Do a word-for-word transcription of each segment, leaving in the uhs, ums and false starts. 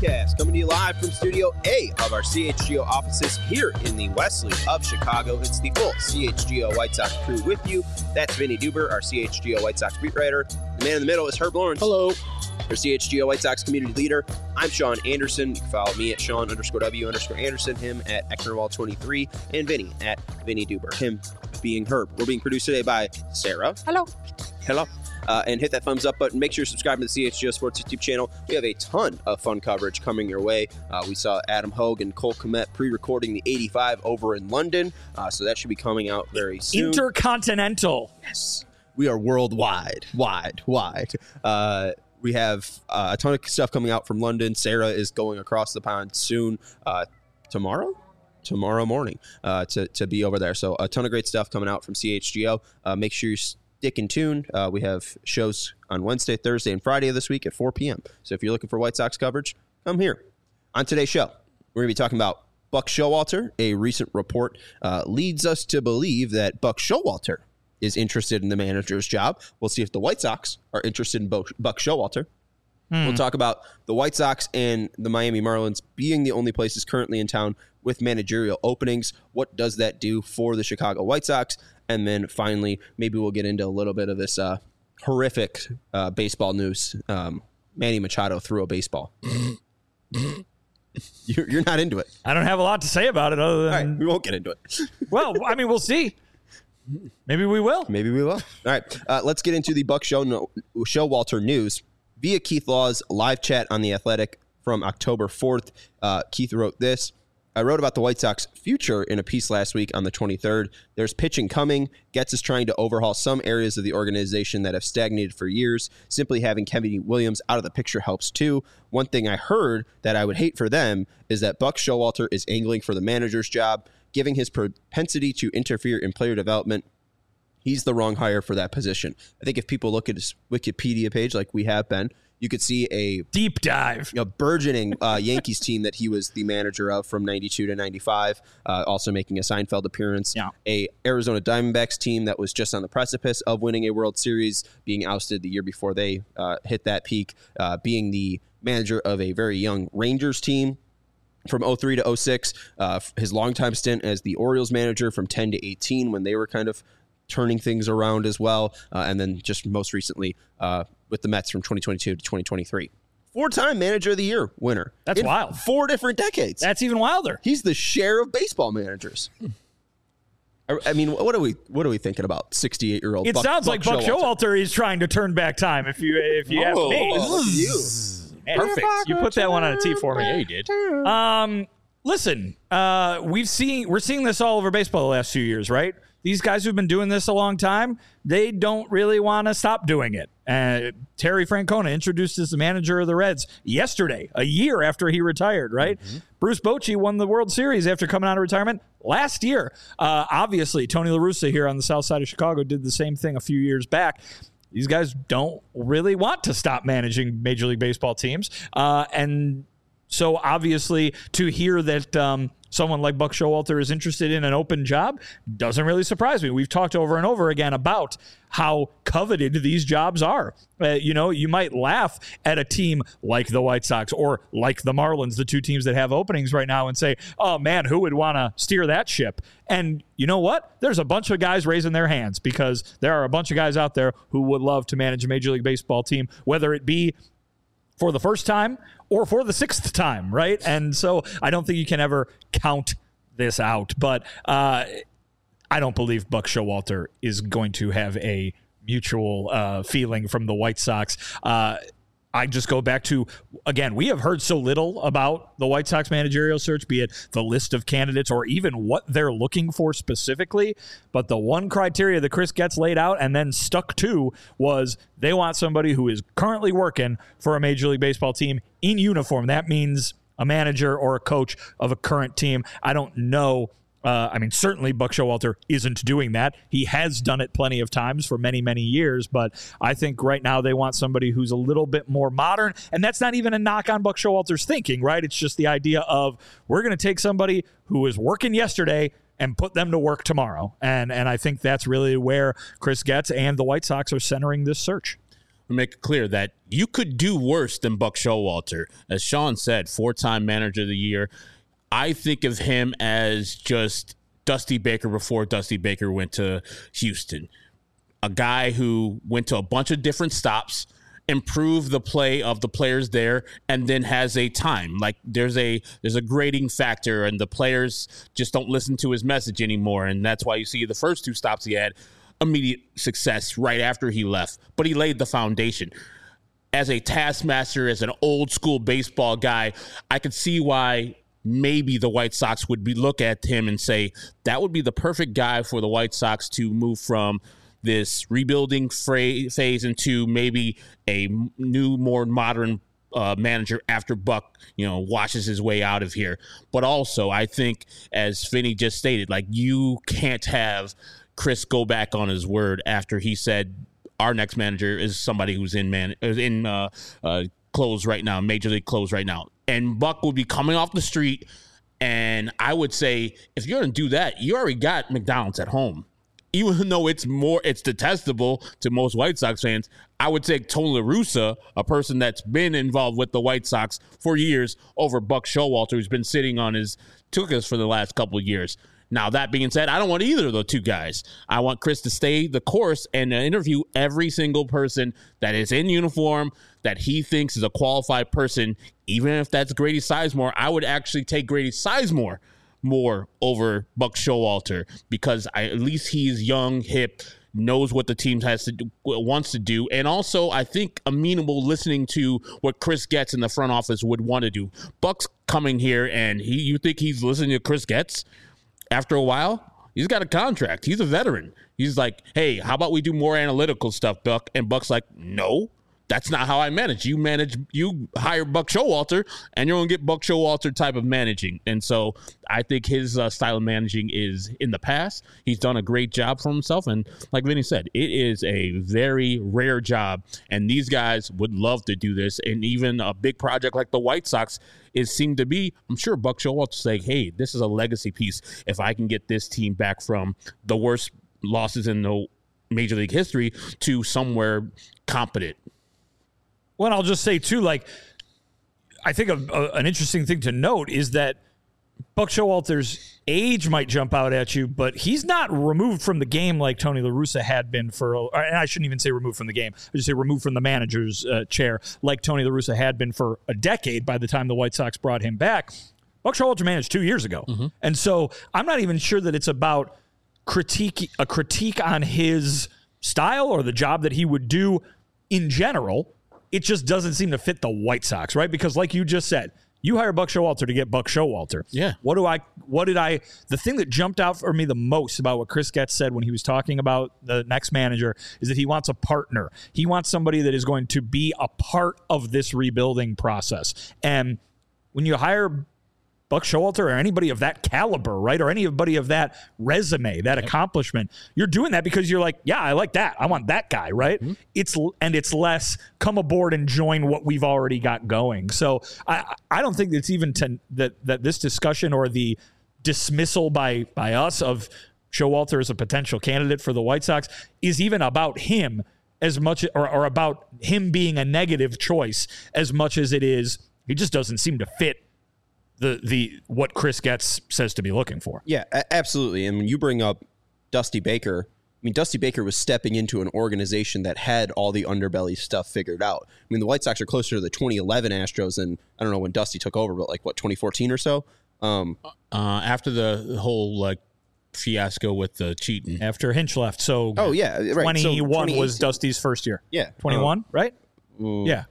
Podcast, coming to you live from Studio A of our C H G O offices here in the Wesley of Chicago. It's the full C H G O White Sox crew with you. That's Vinny Duber, our C H G O White Sox beat writer. The man in the middle is Herb Lawrence. Hello. Our C H G O White Sox community leader. I'm Sean Anderson. You can follow me at Sean underscore W underscore Anderson, him at Ecknerwall twenty-three, and Vinny at Vinny Duber, him being Herb. We're being produced today by Sarah. Hello. Hello. Uh, and hit that thumbs up button. Make sure you're subscribed to the C H G O Sports YouTube channel. We have a ton of fun coverage coming your way. Uh, we saw Adam Hogue and Cole Kmet pre-recording the eighty-five over in London, uh, so that should be coming out very soon. Intercontinental. Yes. We are worldwide, wide, wide. Uh, we have uh, a ton of stuff coming out from London. Sarah is going across the pond soon, uh, tomorrow? Tomorrow morning uh, to, to be over there. So a ton of great stuff coming out from C H G O. Uh, make sure you stick in tune. Uh, we have shows on Wednesday, Thursday, and Friday of this week at four p.m. So if you're looking for White Sox coverage, come here. On today's show, we're going to be talking about Buck Showalter. A recent report uh, leads us to believe that Buck Showalter is interested in the manager's job. We'll see if the White Sox are interested in Buck Showalter. Hmm. We'll talk about the White Sox and the Miami Marlins being the only places currently in town with managerial openings. What does that do for the Chicago White Sox? And then finally, maybe we'll get into a little bit of this uh, horrific uh, baseball news. Um, Manny Machado threw a baseball. you're, you're not into it. I don't have a lot to say about it other than... All right, we won't get into it. Well, I mean, we'll see. Maybe we will. Maybe we will. All right, uh, let's get into the Buck Show no, Showalter news. Via Keith Law's live chat on The Athletic from October fourth, uh, Keith wrote this. I wrote about the White Sox future in a piece last week on the twenty-third. There's pitching coming. Getz is trying to overhaul some areas of the organization that have stagnated for years. Simply having Kevin Williams out of the picture helps too. One thing I heard that I would hate for them is that Buck Showalter is angling for the manager's job, giving his propensity to interfere in player development. He's the wrong hire for that position. I think if people look at his Wikipedia page like we have been, you could see a deep dive, you know, burgeoning uh, Yankees team that he was the manager of from ninety-two to ninety-five, uh, also making a Seinfeld appearance. Yeah. A Arizona Diamondbacks team that was just on the precipice of winning a World Series, being ousted the year before they uh, hit that peak, uh, being the manager of a very young Rangers team from oh three to oh six, uh, his longtime stint as the Orioles manager from ten to eighteen when they were kind of turning things around as well, uh, and then just most recently uh, with the Mets from twenty twenty-two to twenty twenty-three. Four-time Manager of the Year winner. That's in wild. Four different decades. That's even wilder. He's the share of baseball managers. I, I mean, what are we what are we thinking about? sixty-eight-year-old It Buck, sounds Buck like Buck Showalter. Showalter is trying to turn back time. If you if you Oh, ask me, look at you. Man, Perfect. You put that one on a tee for me. Yeah, you did. Um, listen, uh, we've seen we're seeing this all over baseball the last few years, right? These guys who've been doing this a long time, they don't really want to stop doing it. Uh, Terry Francona introduced as the manager of the Reds yesterday, a year after he retired, right? Mm-hmm. Bruce Bochy won the World Series after coming out of retirement last year. Uh, obviously, Tony La Russa here on the south side of Chicago did the same thing a few years back. These guys don't really want to stop managing Major League Baseball teams. Uh, and so obviously to hear that um, someone like Buck Showalter is interested in an open job doesn't really surprise me. We've talked over and over again about how coveted these jobs are. Uh, you know, you might laugh at a team like the White Sox or like the Marlins, the two teams that have openings right now, and say, oh man, who would want to steer that ship? And you know what? There's a bunch of guys raising their hands because there are a bunch of guys out there who would love to manage a Major League Baseball team, whether it be for the first time or for the sixth time, right? And so I don't think you can ever count this out. But uh, I don't believe Buck Showalter is going to have a mutual uh, feeling from the White Sox. Uh, I just go back to, again, we have heard so little about the White Sox managerial search, be it the list of candidates or even what they're looking for specifically. But the one criteria that Chris Getz laid out and then stuck to was they want somebody who is currently working for a Major League Baseball team in uniform. That means a manager or a coach of a current team. I don't know. Uh, I mean, certainly Buck Showalter isn't doing that. He has done it plenty of times for many, many years, but I think right now they want somebody who's a little bit more modern, and that's not even a knock on Buck Showalter's thinking, right? It's just the idea of we're going to take somebody who was working yesterday and put them to work tomorrow, and and I think that's really where Chris Getz and the White Sox are centering this search. to make it clear that you could do worse than Buck Showalter. As Sean said, four-time manager of the year. I think of him as just Dusty Baker before Dusty Baker went to Houston. A guy who went to a bunch of different stops, improved the play of the players there, and then has a time. Like there's a there's a grading factor, and the players just don't listen to his message anymore. And that's why you see the first two stops he had immediate success right after he left. But he laid the foundation. As a taskmaster, as an old school baseball guy, I could see why maybe the White Sox would be look at him and say that would be the perfect guy for the White Sox to move from this rebuilding fra- phase into maybe a new, more modern uh, manager after Buck, you know, washes his way out of here. But also, I think, as Finney just stated, like you can't have Chris go back on his word after he said our next manager is somebody who's in man in uh, uh, clothes right now, major league clothes right now. And Buck will be coming off the street. And I would say, if you're going to do that, you already got McDonald's at home. Even though it's more, it's detestable to most White Sox fans, I would take Tony La Russa, a person that's been involved with the White Sox for years, over Buck Showalter, who's been sitting on his tuchus for the last couple of years. Now, that being said, I don't want either of the two guys. I want Chris to stay the course and interview every single person that is in uniform that he thinks is a qualified person, even if that's Grady Sizemore. I would actually take Grady Sizemore more over Buck Showalter because I, at least he's young, hip, knows what the team has to do, wants to do, and also I think amenable listening to what Chris Getz in the front office would want to do. Buck's coming here, and he you think he's listening to Chris Getz? After a while, he's got a contract. He's a veteran. He's like, hey, how about we do more analytical stuff, Buck? And Buck's like, no. That's not how I manage. You manage, you hire Buck Showalter, and you're going to get Buck Showalter type of managing. And so I think his uh, style of managing is in the past. He's done a great job for himself. And like Vinny said, it is a very rare job. And these guys would love to do this. And even a big project like the White Sox is seemed to be, I'm sure Buck Showalter say, hey, this is a legacy piece. If I can get this team back from the worst losses in the Major League history to somewhere competent. Well, I'll just say, too, like, I think a, a, an interesting thing to note is that Buck Showalter's age might jump out at you, but he's not removed from the game like Tony La Russa had been for, and I shouldn't even say removed from the game. I just say removed from the manager's uh, chair like Tony La Russa had been for a decade by the time the White Sox brought him back. Buck Showalter managed two years ago. Mm-hmm. And so I'm not even sure that it's about critique, a critique on his style or the job that he would do in general. It just doesn't seem to fit the White Sox, right? Because like you just said, you hire Buck Showalter to get Buck Showalter. Yeah. What do I, what did I, the thing that jumped out for me the most about what Chris Getz said when he was talking about the next manager is that he wants a partner. He wants somebody that is going to be a part of this rebuilding process. And when you hire Buck Showalter or anybody of that caliber, right? Or anybody of that resume, that yep. accomplishment, you're doing that because you're like, yeah, I like that. I want that guy, right? Mm-hmm. It's and it's less come aboard and join what we've already got going. So I I don't think it's even to, that that this discussion or the dismissal by by us of Showalter as a potential candidate for the White Sox is even about him as much or, or about him being a negative choice as much as it is he just doesn't seem to fit the the what Chris Getz says to be looking for. Yeah, a- absolutely. And when you bring up Dusty Baker, I mean, Dusty Baker was stepping into an organization that had all the underbelly stuff figured out. I mean, the White Sox are closer to the twenty eleven Astros than, I don't know when Dusty took over, but like, what, twenty fourteen or so? Um, uh, after the whole, like, fiasco with the cheating. After Hinch left. So oh, yeah, right. twenty-one so was Dusty's first year. Yeah. twenty-one, uh, right? Ooh. Yeah.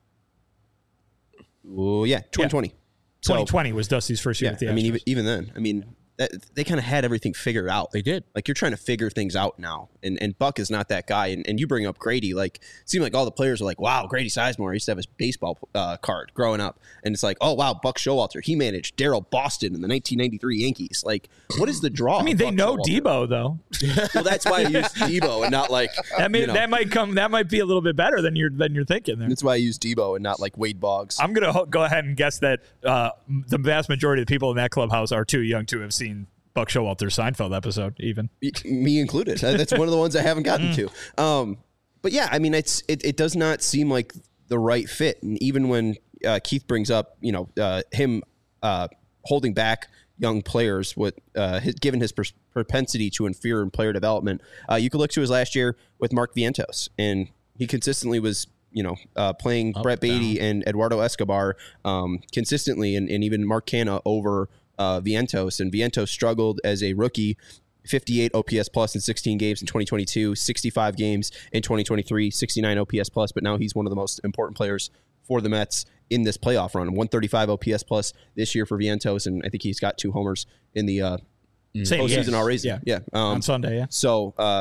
Ooh, yeah, twenty twenty. Yeah. twenty twenty so, was Dusty's first year yeah, with the Astros. I mean, even, even then, I mean, that, they kind of had everything figured out. They did. Like, you're trying to figure things out now, and, and Buck is not that guy. And, and you bring up Grady, like, it seemed like all the players are like, wow, Grady Sizemore, he used to have his baseball uh, card growing up. And it's like, oh, wow, Buck Showalter, he managed Daryl Boston in the nineteen ninety-three Yankees. Like, what is the draw? I mean, they Buck know Showalter? Debo, though. Well, that's why I used Debo and not like, that, may, you know, that might come, that might be a little bit better than you're, than you're thinking there. That's why I used Debo and not like Wade Boggs. I'm going to go ahead and guess that uh, the vast majority of the people in that clubhouse are too young to have seen Buck Showalter's Seinfeld episode, even me included. That's one of the ones I haven't gotten to. Um, but but yeah, I mean, it's it, it does not seem like the right fit. And even when uh, Keith brings up, you know, uh, him uh, holding back young players with uh, his, given his pers- propensity to interfere in player development, uh, you could look to his last year with Mark Vientos, and he consistently was, you know, uh, playing Up, Brett Beatty down. and Eduardo Escobar um, consistently, and, and even Mark Canha over uh, Vientos. And Vientos struggled as a rookie. fifty-eight O P S plus in sixteen games in twenty twenty-two, sixty-five games in twenty twenty-three, sixty-nine O P S plus, but now he's one of the most important players for the Mets in this playoff run. one thirty-five O P S plus this year for Vientos, and I think he's got two homers in the uh, Same, postseason yes. already. Yeah, yeah. Um, on Sunday, yeah. So, uh,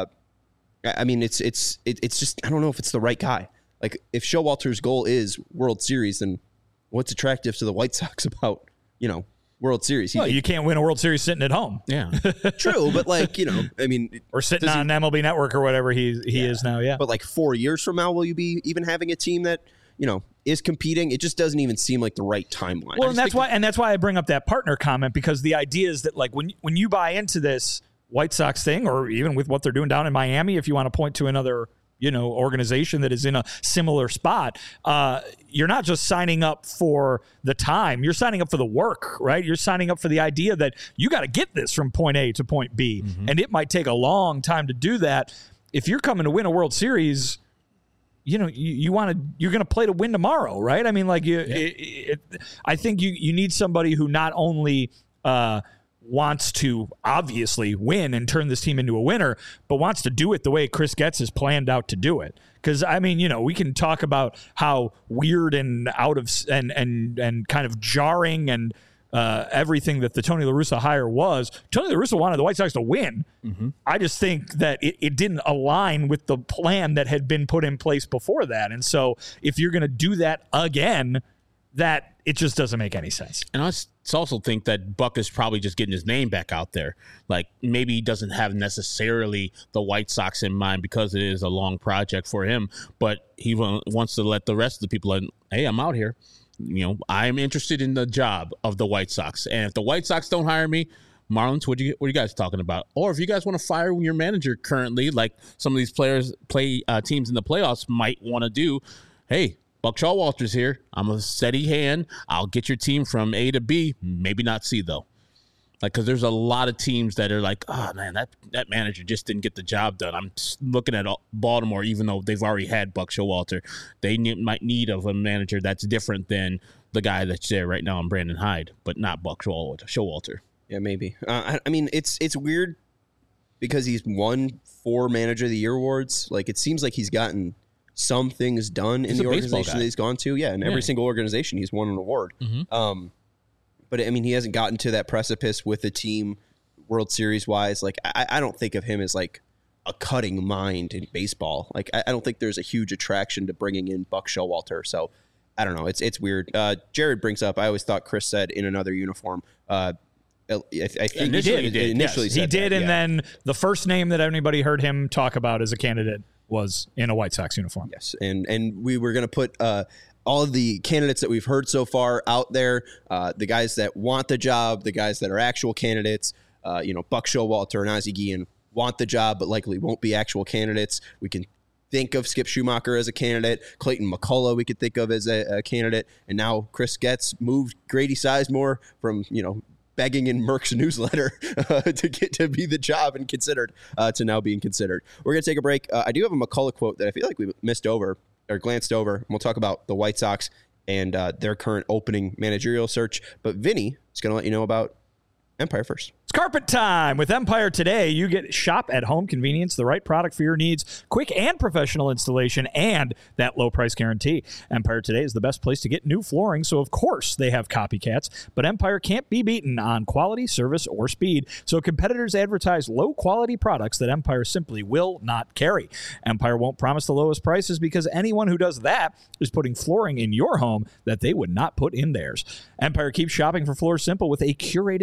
I I mean, it's it's it, it's just I don't know if it's the right guy. Like, if Showalter's goal is World Series, then what's attractive to the White Sox about, you know, World Series? He, Well, you can't win a World Series sitting at home. Yeah. true, but like, you know, I mean, Or sitting does he- on M L B Network or whatever he he Yeah. is now, yeah. But like four years from now, will you be even having a team that, you know, is competing? It just doesn't even seem like the right timeline. Well, I and just that's think- why, and that's why I bring up that partner comment, because the idea is that, like, when when you buy into this White Sox thing, or even with what they're doing down in Miami, if you want to point to another, you know, organization that is in a similar spot, uh, you're not just signing up for the time, you're signing up for the work, right? You're signing up for the idea that you got to get this from point A to point B, Mm-hmm. and it might take a long time to do that. If you're coming to win a World Series, you know, you, you want to, you're going to play to win tomorrow, right? I mean, like, you, it, it, I think you, you need somebody who not only uh, wants to obviously win and turn this team into a winner, but wants to do it the way Chris Getz has planned out to do it. Because, I mean, you know, we can talk about how weird and out of, and, and, and kind of jarring and, Uh, everything that the Tony La Russa hire was. Tony La Russa wanted the White Sox to win. Mm-hmm. I just think that it, it didn't align with the plan that had been put in place before that. And so if you're going to do that again, that it just doesn't make any sense. And I s- also think that Buck is probably just getting his name back out there. Like, maybe he doesn't have necessarily the White Sox in mind because it is a long project for him, but he wa- wants to let the rest of the people know, hey, I'm out here. You know, I'm interested in the job of the White Sox. And if the White Sox don't hire me, Marlins, what do you what are you guys talking about? Or if you guys want to fire your manager currently, like some of these players play uh, teams in the playoffs might want to do, hey, Buck Showalter's here. I'm a steady hand. I'll get your team from A to B, maybe not C though. Like, because there's a lot of teams that are like, oh man, that that manager just didn't get the job done. I'm just looking at Baltimore, even though they've already had Buck Showalter, they need, might need of a manager that's different than the guy that's there right now in Brandon Hyde, but not Buck Showalter. Showalter. Yeah, maybe. Uh, I, I mean, it's it's weird because he's won four Manager of the Year awards. Like, it seems like he's gotten some things done He's in a the baseball organization guy. that he's gone to. Yeah, in Yeah. every single organization, he's won an award. Mhm. Um, but I mean, he hasn't gotten to that precipice with the team World Series wise. Like, I, I don't think of him as like a cutting mind in baseball. Like, I, I don't think there's a huge attraction to bringing in Buck Showalter. So I don't know. It's it's weird. Uh, Jared brings up, I always thought Chris said in another uniform. Uh, I, I think Initially he did, Initially Yes, said he did, that, and yeah. then the first name that anybody heard him talk about as a candidate was in a White Sox uniform. Yes, and and we were going to put uh, all of the candidates that we've heard so far out there, uh, the guys that want the job, the guys that are actual candidates, uh, you know, Buck Showalter and Ozzie Guillen want the job, but likely won't be actual candidates. We can think of Skip Schumacher as a candidate, Clayton McCullough we could think of as a, a candidate, and now Chris Getz moved Grady Sizemore from, you know, begging in Merck's newsletter uh, to get to be the job and considered uh, to now being considered. We're going to take a break. Uh, I do have a McCullough quote that I feel like we missed over or glanced over. And we'll talk about the White Sox and uh, their current opening managerial search. But Vinny is going to let you know about Empire first. It's carpet time. With Empire today, you get shop at home convenience, the right product for your needs, quick and professional installation, and that low price guarantee. Empire today is the best place to get new flooring, so of course they have copycats, but Empire can't be beaten on quality, service, or speed. So competitors advertise low quality products that Empire simply will not carry. Empire won't promise the lowest prices because anyone who does that is putting flooring in your home that they would not put in theirs. Empire keeps shopping for Floor Simple with a curated product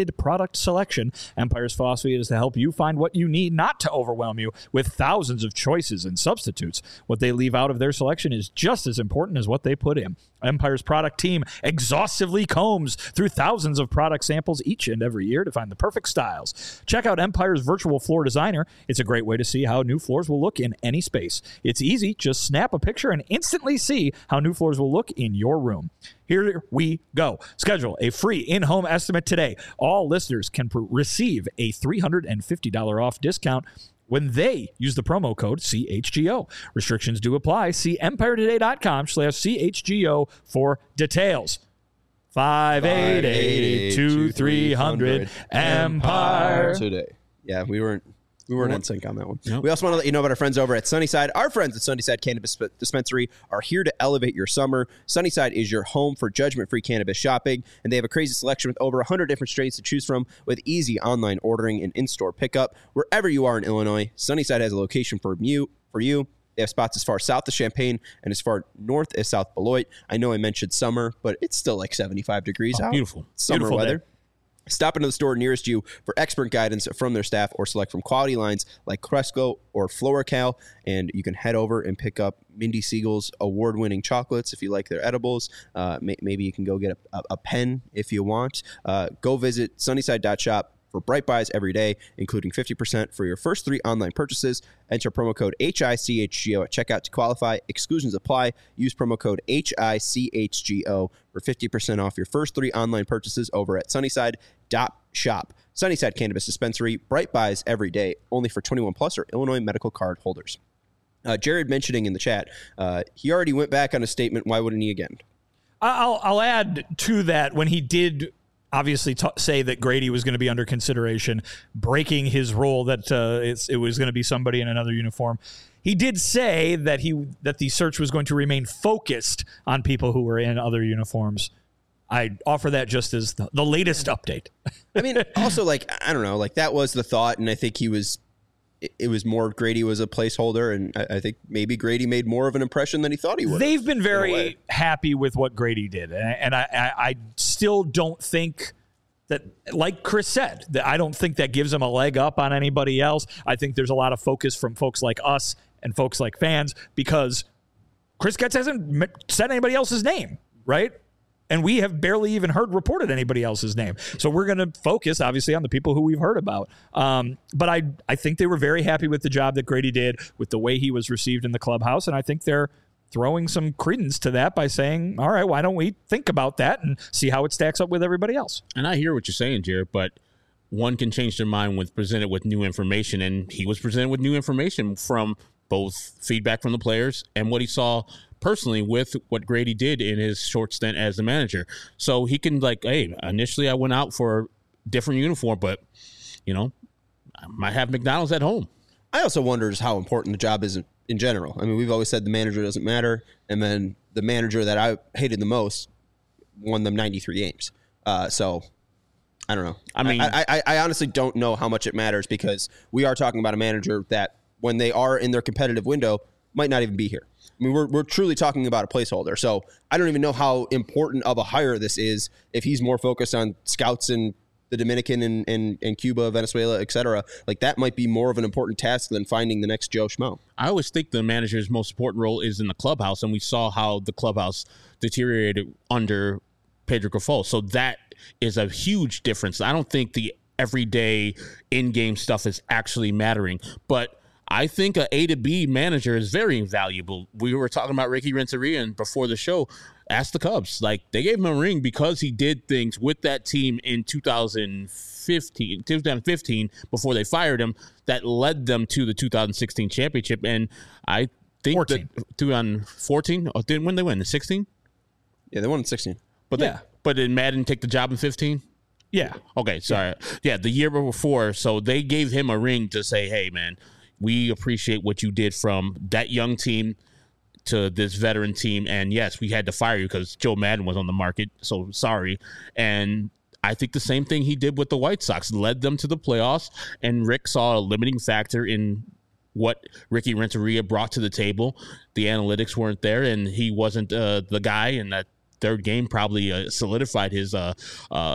product selection. Empire's philosophy is to help you find what you need, not to overwhelm you with thousands of choices and substitutes. What they leave out of their selection is just as important as what they put in. Empire's product team exhaustively combs through thousands of product samples each and every year to find the perfect styles. Check out Empire's virtual floor designer. It's a great way to see how new floors will look in any space. It's easy. Just snap a picture and instantly see how new floors will look in your room. Here we go. Schedule a free in-home estimate today. All listeners can pr- receive a three hundred fifty dollars off discount when they use the promo code C H G O. Restrictions do apply. See empiretoday.com slash CHGO for details. five eight eight, two three hundred Empire Today. Yeah, we weren't we weren't in sync on that one. Nope. We also want to let you know about our friends over at Sunnyside. Our friends at Sunnyside Cannabis Dispensary are here to elevate your summer. Sunnyside is your home for judgment-free cannabis shopping, and they have a crazy selection with over one hundred different strains to choose from with easy online ordering and in-store pickup. Wherever you are in Illinois, Sunnyside has a location for you. For you. They have spots as far south as Champaign and as far north as South Beloit. I know I mentioned summer, but it's still like seventy-five degrees Oh, out. beautiful. Summer Beautiful weather. day. Stop into the store nearest you for expert guidance from their staff or select from quality lines like Cresco or Floracal. And you can head over and pick up Mindy Siegel's award-winning chocolates if you like their edibles. Uh, may- maybe you can go get a, a, a pen if you want. Uh, go visit sunnyside dot shop for Bright Buys every day, including fifty percent for your first three online purchases. Enter promo code H I C H G O at checkout to qualify. Exclusions apply. Use promo code H I C H G O for fifty percent off your first three online purchases over at sunnyside dot shop. Sunnyside Cannabis Dispensary, Bright Buys every day, only for twenty-one plus or Illinois medical card holders. Uh, Jared mentioning in the chat, uh, he already went back on a statement. Why wouldn't he again? I'll, I'll add to that when he did obviously t- say that Grady was going to be under consideration, breaking his rule that uh, it's, it was going to be somebody in another uniform. He did say that he that the search was going to remain focused on people who were in other uniforms. I offer that just as the, the latest update. I mean, also, like, I don't know, like, that was the thought, and I think he was, it, it was more Grady was a placeholder, and I, I think maybe Grady made more of an impression than he thought he would. They've been very happy with what Grady did, and, and I, I, I still don't think that, like Chris said, that I don't think that gives him a leg up on anybody else. I think there's a lot of focus from folks like us and folks like fans because Chris Getz hasn't said anybody else's name, right? And we have barely even heard reported anybody else's name. So we're going to focus, obviously, on the people who we've heard about. Um, but I, I think they were very happy with the job that Grady did, with the way he was received in the clubhouse. And I think they're throwing some credence to that by saying, all right, why don't we think about that and see how it stacks up with everybody else? And I hear what you're saying, Jared, but one can change their mind when presented with new information. And he was presented with new information from both feedback from the players and what he saw personally with what Grady did in his short stint as the manager. So he can, like, hey, initially I went out for a different uniform, but, you know, I might have McDonald's at home. I also wonder just how important the job is in, in general. I mean, we've always said the manager doesn't matter, and then the manager that I hated the most won them ninety-three games. Uh, so I don't know. I mean, I, I, I honestly don't know how much it matters because we are talking about a manager that when they are in their competitive window might not even be here. I mean, we're we're truly talking about a placeholder. So I don't even know how important of a hire this is if he's more focused on scouts in the Dominican and, and, and Cuba, Venezuela, et cetera. Like, that might be more of an important task than finding the next Joe Schmo. I always think the manager's most important role is in the clubhouse, and we saw how the clubhouse deteriorated under Pedro Grifol. So that is a huge difference. I don't think the everyday in-game stuff is actually mattering, but I think a A to B manager is very invaluable. We were talking about Ricky Renteria, and before the show, ask the Cubs. Like, they gave him a ring because he did things with that team in two thousand fifteen, two thousand fifteen before they fired him that led them to the two thousand sixteen championship. And I think fourteen. that two thousand fourteen, oh, didn't when they win the sixteen? Yeah, they won in sixteen. But Yeah. they, but did Madden take the job in fifteen? Yeah. Okay, sorry. Yeah. yeah, the year before. So they gave him a ring to say, hey, man, we appreciate what you did from that young team to this veteran team. And yes, we had to fire you because Joe Madden was on the market. So sorry. And I think the same thing he did with the White Sox led them to the playoffs. And Rick saw a limiting factor in what Ricky Renteria brought to the table. The analytics weren't there, and he wasn't uh, the guy. And that third game probably uh, solidified his uh, uh,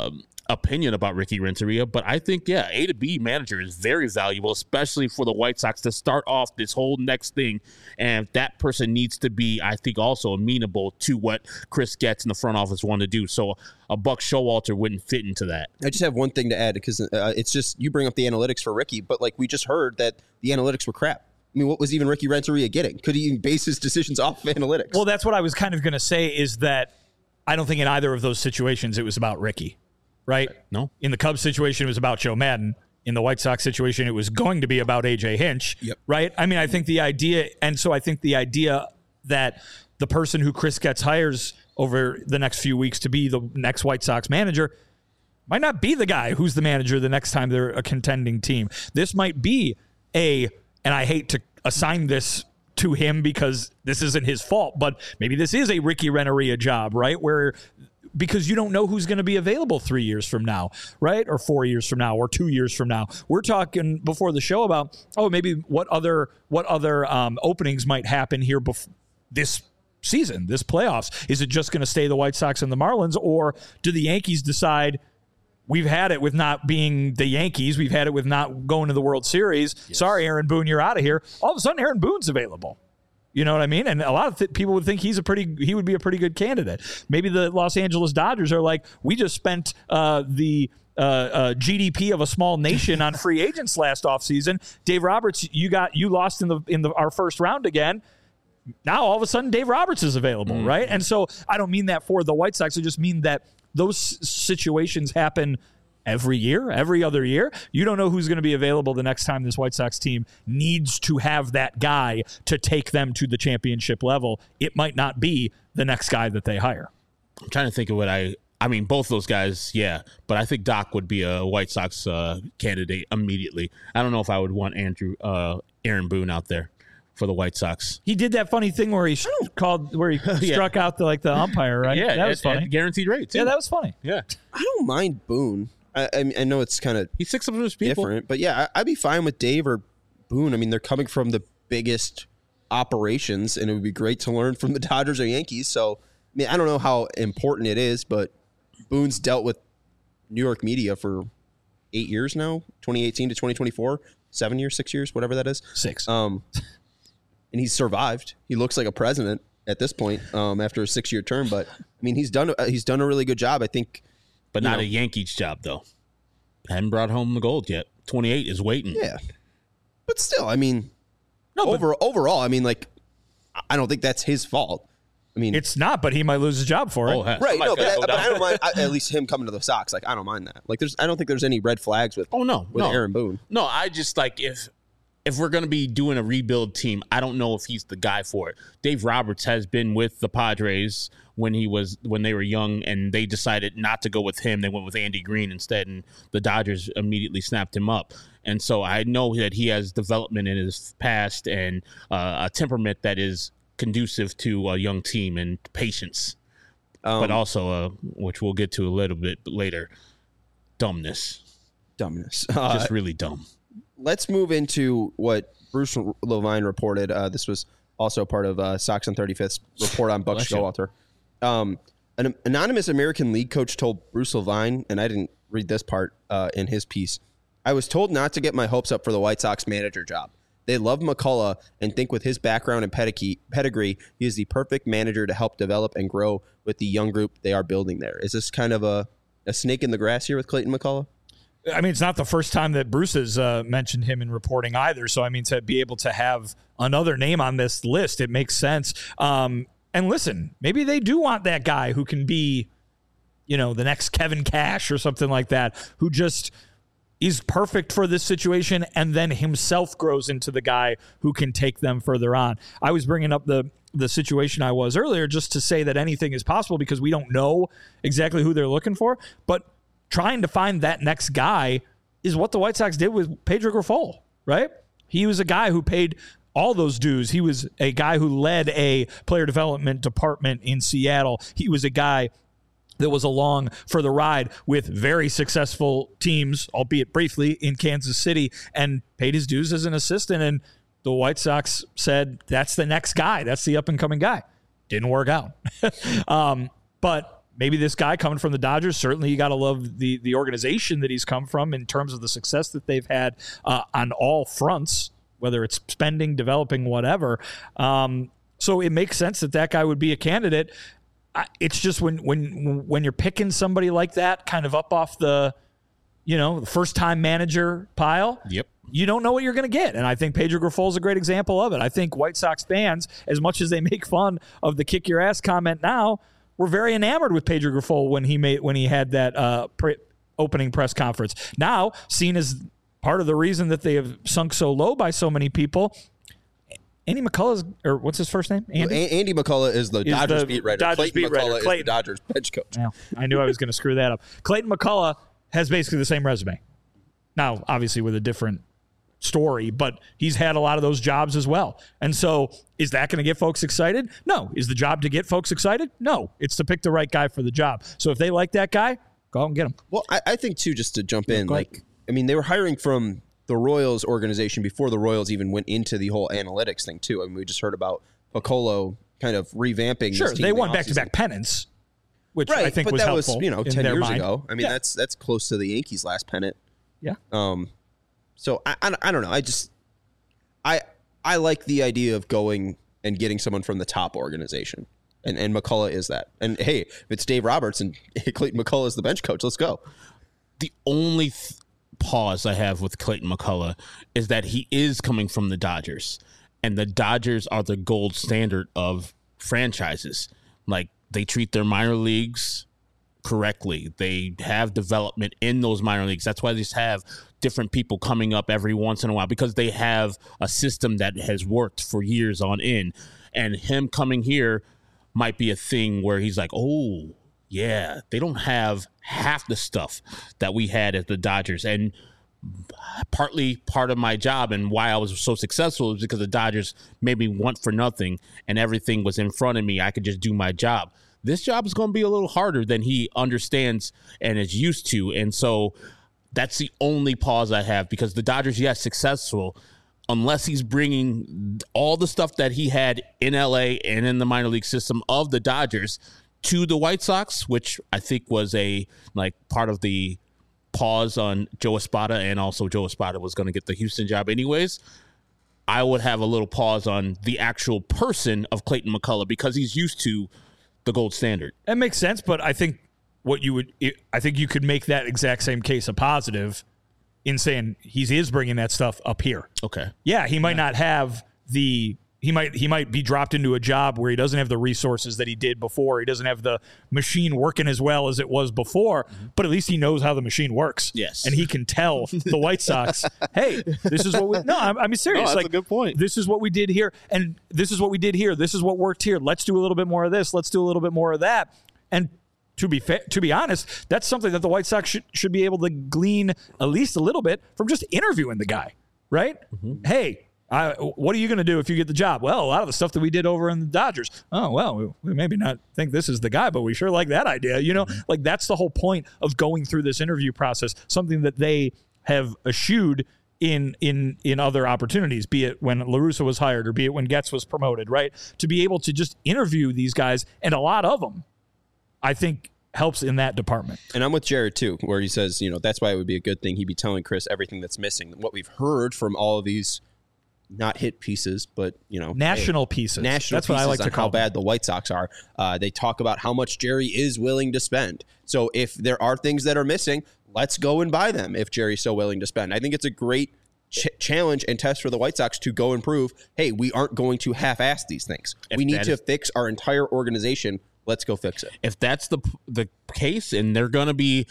opinion about Ricky Renteria, but I think, yeah, A to B manager is very valuable, especially for the White Sox to start off this whole next thing. And that person needs to be, I think, also amenable to what Chris Getz in the front office want to do. So a Buck Showalter wouldn't fit into that. I just have one thing to add because uh, it's just you bring up the analytics for Ricky, but like we just heard that the analytics were crap. I mean, what was even Ricky Renteria getting? Could he even base his decisions off of analytics? Well, that's what I was kind of going to say is that I don't think in either of those situations it was about Ricky. Right? No. In the Cubs situation, it was about Joe Madden. In the White Sox situation, it was going to be about A J Hinch. Yep. Right? I mean, I think the idea, and so I think the idea that the person who Chris Getz hires over the next few weeks to be the next White Sox manager might not be the guy who's the manager the next time they're a contending team. This might be a, and I hate to assign this to him because this isn't his fault, but maybe this is a Ricky Renteria job, right? Where because you don't know who's going to be available three years from now, right? Or four years from now, or two years from now. We're talking before the show about, oh, maybe what other what other um, openings might happen here bef- this season, this playoffs. Is it just going to stay the White Sox and the Marlins, or do the Yankees decide we've had it with not being the Yankees, we've had it with not going to the World Series. Yes. Sorry, Aaron Boone, you're out of here. All of a sudden, Aaron Boone's available. You know what I mean? And a lot of th- people would think he's a pretty, he would be a pretty good candidate. Maybe the Los Angeles Dodgers are like, we just spent uh, the uh, uh, G D P of a small nation on free agents last offseason. Dave Roberts, you got you lost in the in the our first round again. Now all of a sudden Dave Roberts is available, mm-hmm. right? And so I don't mean that for the White Sox. I just mean that those situations happen every year, every other year. You don't know who's going to be available the next time this White Sox team needs to have that guy to take them to the championship level. It might not be the next guy that they hire. I'm trying to think of what I I mean, both those guys, yeah, but I think Doc would be a White Sox uh, candidate immediately. I don't know if I would want Andrew uh, Aaron Boone out there for the White Sox. He did that funny thing where he called, where he yeah. struck out the like the umpire, right? Yeah, that was at, funny. At guaranteed rate, too. Yeah, that was funny. Yeah, I don't mind Boone. I, I, mean, I know it's kind of he's six of those people, different, but yeah, I, I'd be fine with Dave or Boone. I mean, they're coming from the biggest operations, and it would be great to learn from the Dodgers or Yankees. So, I mean, I don't know how important it is, but Boone's dealt with New York media for eight years now, twenty eighteen to twenty twenty-four, seven years, six years, whatever that is. Six. Um, and he's survived. He looks like a president at this point um, after a six-year term. But, I mean, he's done he's done a really good job, I think. But not know. a Yankees job, though. Hadn't brought home the gold yet. twenty-eight is waiting. Yeah. But still, I mean, no, over, overall, I mean, like, I don't think that's his fault. I mean, it's not, but he might lose his job for it. Oh, right. No, but, I, but I don't mind. I, at least him coming to the Sox, like I don't mind that. Like, there's, I don't think there's any red flags with. Oh no, with no. Aaron Boone. No, I just like if if we're gonna be doing a rebuild team, I don't know if he's the guy for it. Dave Roberts has been with the Padres when he was when they were young, and they decided not to go with him. They went with Andy Green instead, and the Dodgers immediately snapped him up. And so I know that he has development in his past and uh, a temperament that is conducive to a young team and patience, um, but also, uh, which we'll get to a little bit later, dumbness. Dumbness. Just Uh, really dumb. let's move into what Bruce Levine reported. Uh, this was also part of uh, Sox on thirty-fifth's report on Buck Bless you. Showalter. Um, an anonymous American League coach told Bruce Levine, and I didn't read this part uh, in his piece, I was told not to get my hopes up for the White Sox manager job. They love McCullough and think with his background and pedigree, he is the perfect manager to help develop and grow with the young group they are building there. Is this kind of a, a snake in the grass here with Clayton McCullough? I mean, it's not the first time that Bruce has uh, mentioned him in reporting either. So, I mean, to be able to have another name on this list, it makes sense. Um, and listen, maybe they do want that guy who can be, you know, the next Kevin Cash or something like that, who just is perfect for this situation and then himself grows into the guy who can take them further on. I was bringing up the the situation I was earlier just to say that anything is possible because we don't know exactly who they're looking for, but trying to find that next guy is what the White Sox did with Pedro Grifol, right? He was a guy who paid all those dues. He was a guy who led a player development department in Seattle. He was a guy that was along for the ride with very successful teams, albeit briefly, in Kansas City, and paid his dues as an assistant. And the White Sox said, that's the next guy. That's the up-and-coming guy. Didn't work out. um, but maybe this guy coming from the Dodgers, certainly you got to love the the organization that he's come from in terms of the success that they've had uh, on all fronts, whether it's spending, developing, whatever. Um, so it makes sense that that guy would be a candidate. I, it's just when when when you're picking somebody like that, kind of up off the, you know, the first time manager pile. Yep. You don't know what you're going to get. And I think Pedro Grifol is a great example of it. I think White Sox fans, as much as they make fun of the kick your ass comment now, were very enamored with Pedro Grifol when he made when he had that uh, pre- opening press conference. Now, seen as part of the reason that they have sunk so low by so many people, Andy McCullough's, or what's his first name? Andy? Well, Andy McCullough is the Is Dodgers the beat writer. Dodgers Clayton beat writer. McCullough is Clayton. the Dodgers bench coach. Well, I knew I was going to screw that up. Clayton McCullough has basically the same resume. Now, obviously with a different story, but he's had a lot of those jobs as well. And so is that going to get folks excited? No. Is the job to get folks excited? No. It's to pick the right guy for the job. So if they like that guy, go out and get him. Well, I, I think, too, just to jump in, go ahead. like, I mean, they were hiring from the Royals organization before the Royals even went into the whole analytics thing, too. I mean, we just heard about Piccolo kind of revamping Sure, this team they in the won offseason. back-to-back pennants, which Right, I think but was that helpful. was, you know, in ten their years mind. ago. I mean, Yeah. that's that's close to the Yankees' last pennant. Yeah. Um, so I, I I don't know. I just I I like the idea of going and getting someone from the top organization, and and McCullough is that. And hey, if it's Dave Roberts and Clayton McCullough is the bench coach, let's go. The only th- pause I have with Clayton McCullough is that he is coming from the Dodgers, and the Dodgers are the gold standard of franchises. Like, they treat their minor leagues correctly. They have development in those minor leagues. That's why they just have different people coming up every once in a while, because they have a system that has worked for years on end. And him coming here might be a thing where he's like, oh, yeah, they don't have half the stuff that we had at the Dodgers. And partly part of my job and why I was so successful is because the Dodgers made me want for nothing and everything was in front of me. I could just do my job. This job is going to be a little harder than he understands and is used to. And so that's the only pause I have, because the Dodgers, yes, successful, unless he's bringing all the stuff that he had in L A and in the minor league system of the Dodgers to the White Sox, which I think was a like part of the pause on Joe Espada, and also Joe Espada was going to get the Houston job anyways. I would have a little pause on the actual person of Clayton McCullough, because he's used to the gold standard. That makes sense, but I think what you would, I think you could make that exact same case a positive in saying he is bringing that stuff up here. Okay. Yeah, he might not have the, he might he might be dropped into a job where he doesn't have the resources that he did before. He doesn't have the machine working as well as it was before, mm-hmm. but at least he knows how the machine works. Yes. And he can tell the White Sox, hey, this is what we, no, I'm, I'm serious. No, that's like, a good point. This is what we did here, and this is what we did here. This is what worked here. Let's do a little bit more of this. Let's do a little bit more of that. And to be fa- to be honest, that's something that the White Sox should, should be able to glean at least a little bit from just interviewing the guy, right? Mm-hmm. Hey, I, what are you going to do if you get the job? Well, a lot of the stuff that we did over in the Dodgers. Oh, well, we, we maybe not think this is the guy, but we sure like that idea. You know, mm-hmm. like that's the whole point of going through this interview process, something that they have eschewed in in in other opportunities, be it when La Russa was hired or be it when Getz was promoted, right? To be able to just interview these guys, and a lot of them, I think, helps in that department. And I'm with Jared, too, where he says, you know, that's why it would be a good thing he'd be telling Chris everything that's missing. What we've heard from all of these not hit pieces, but, you know, national hey, pieces. National That's pieces what I like on to call how bad the White Sox are. Uh, they talk about how much Jerry is willing to spend. So if there are things that are missing, let's go and buy them if Jerry's so willing to spend. I think it's a great ch- challenge and test for the White Sox to go and prove, hey, we aren't going to half-ass these things. If we need to is- fix our entire organization. Let's go fix it. If that's the the case, and they're going to be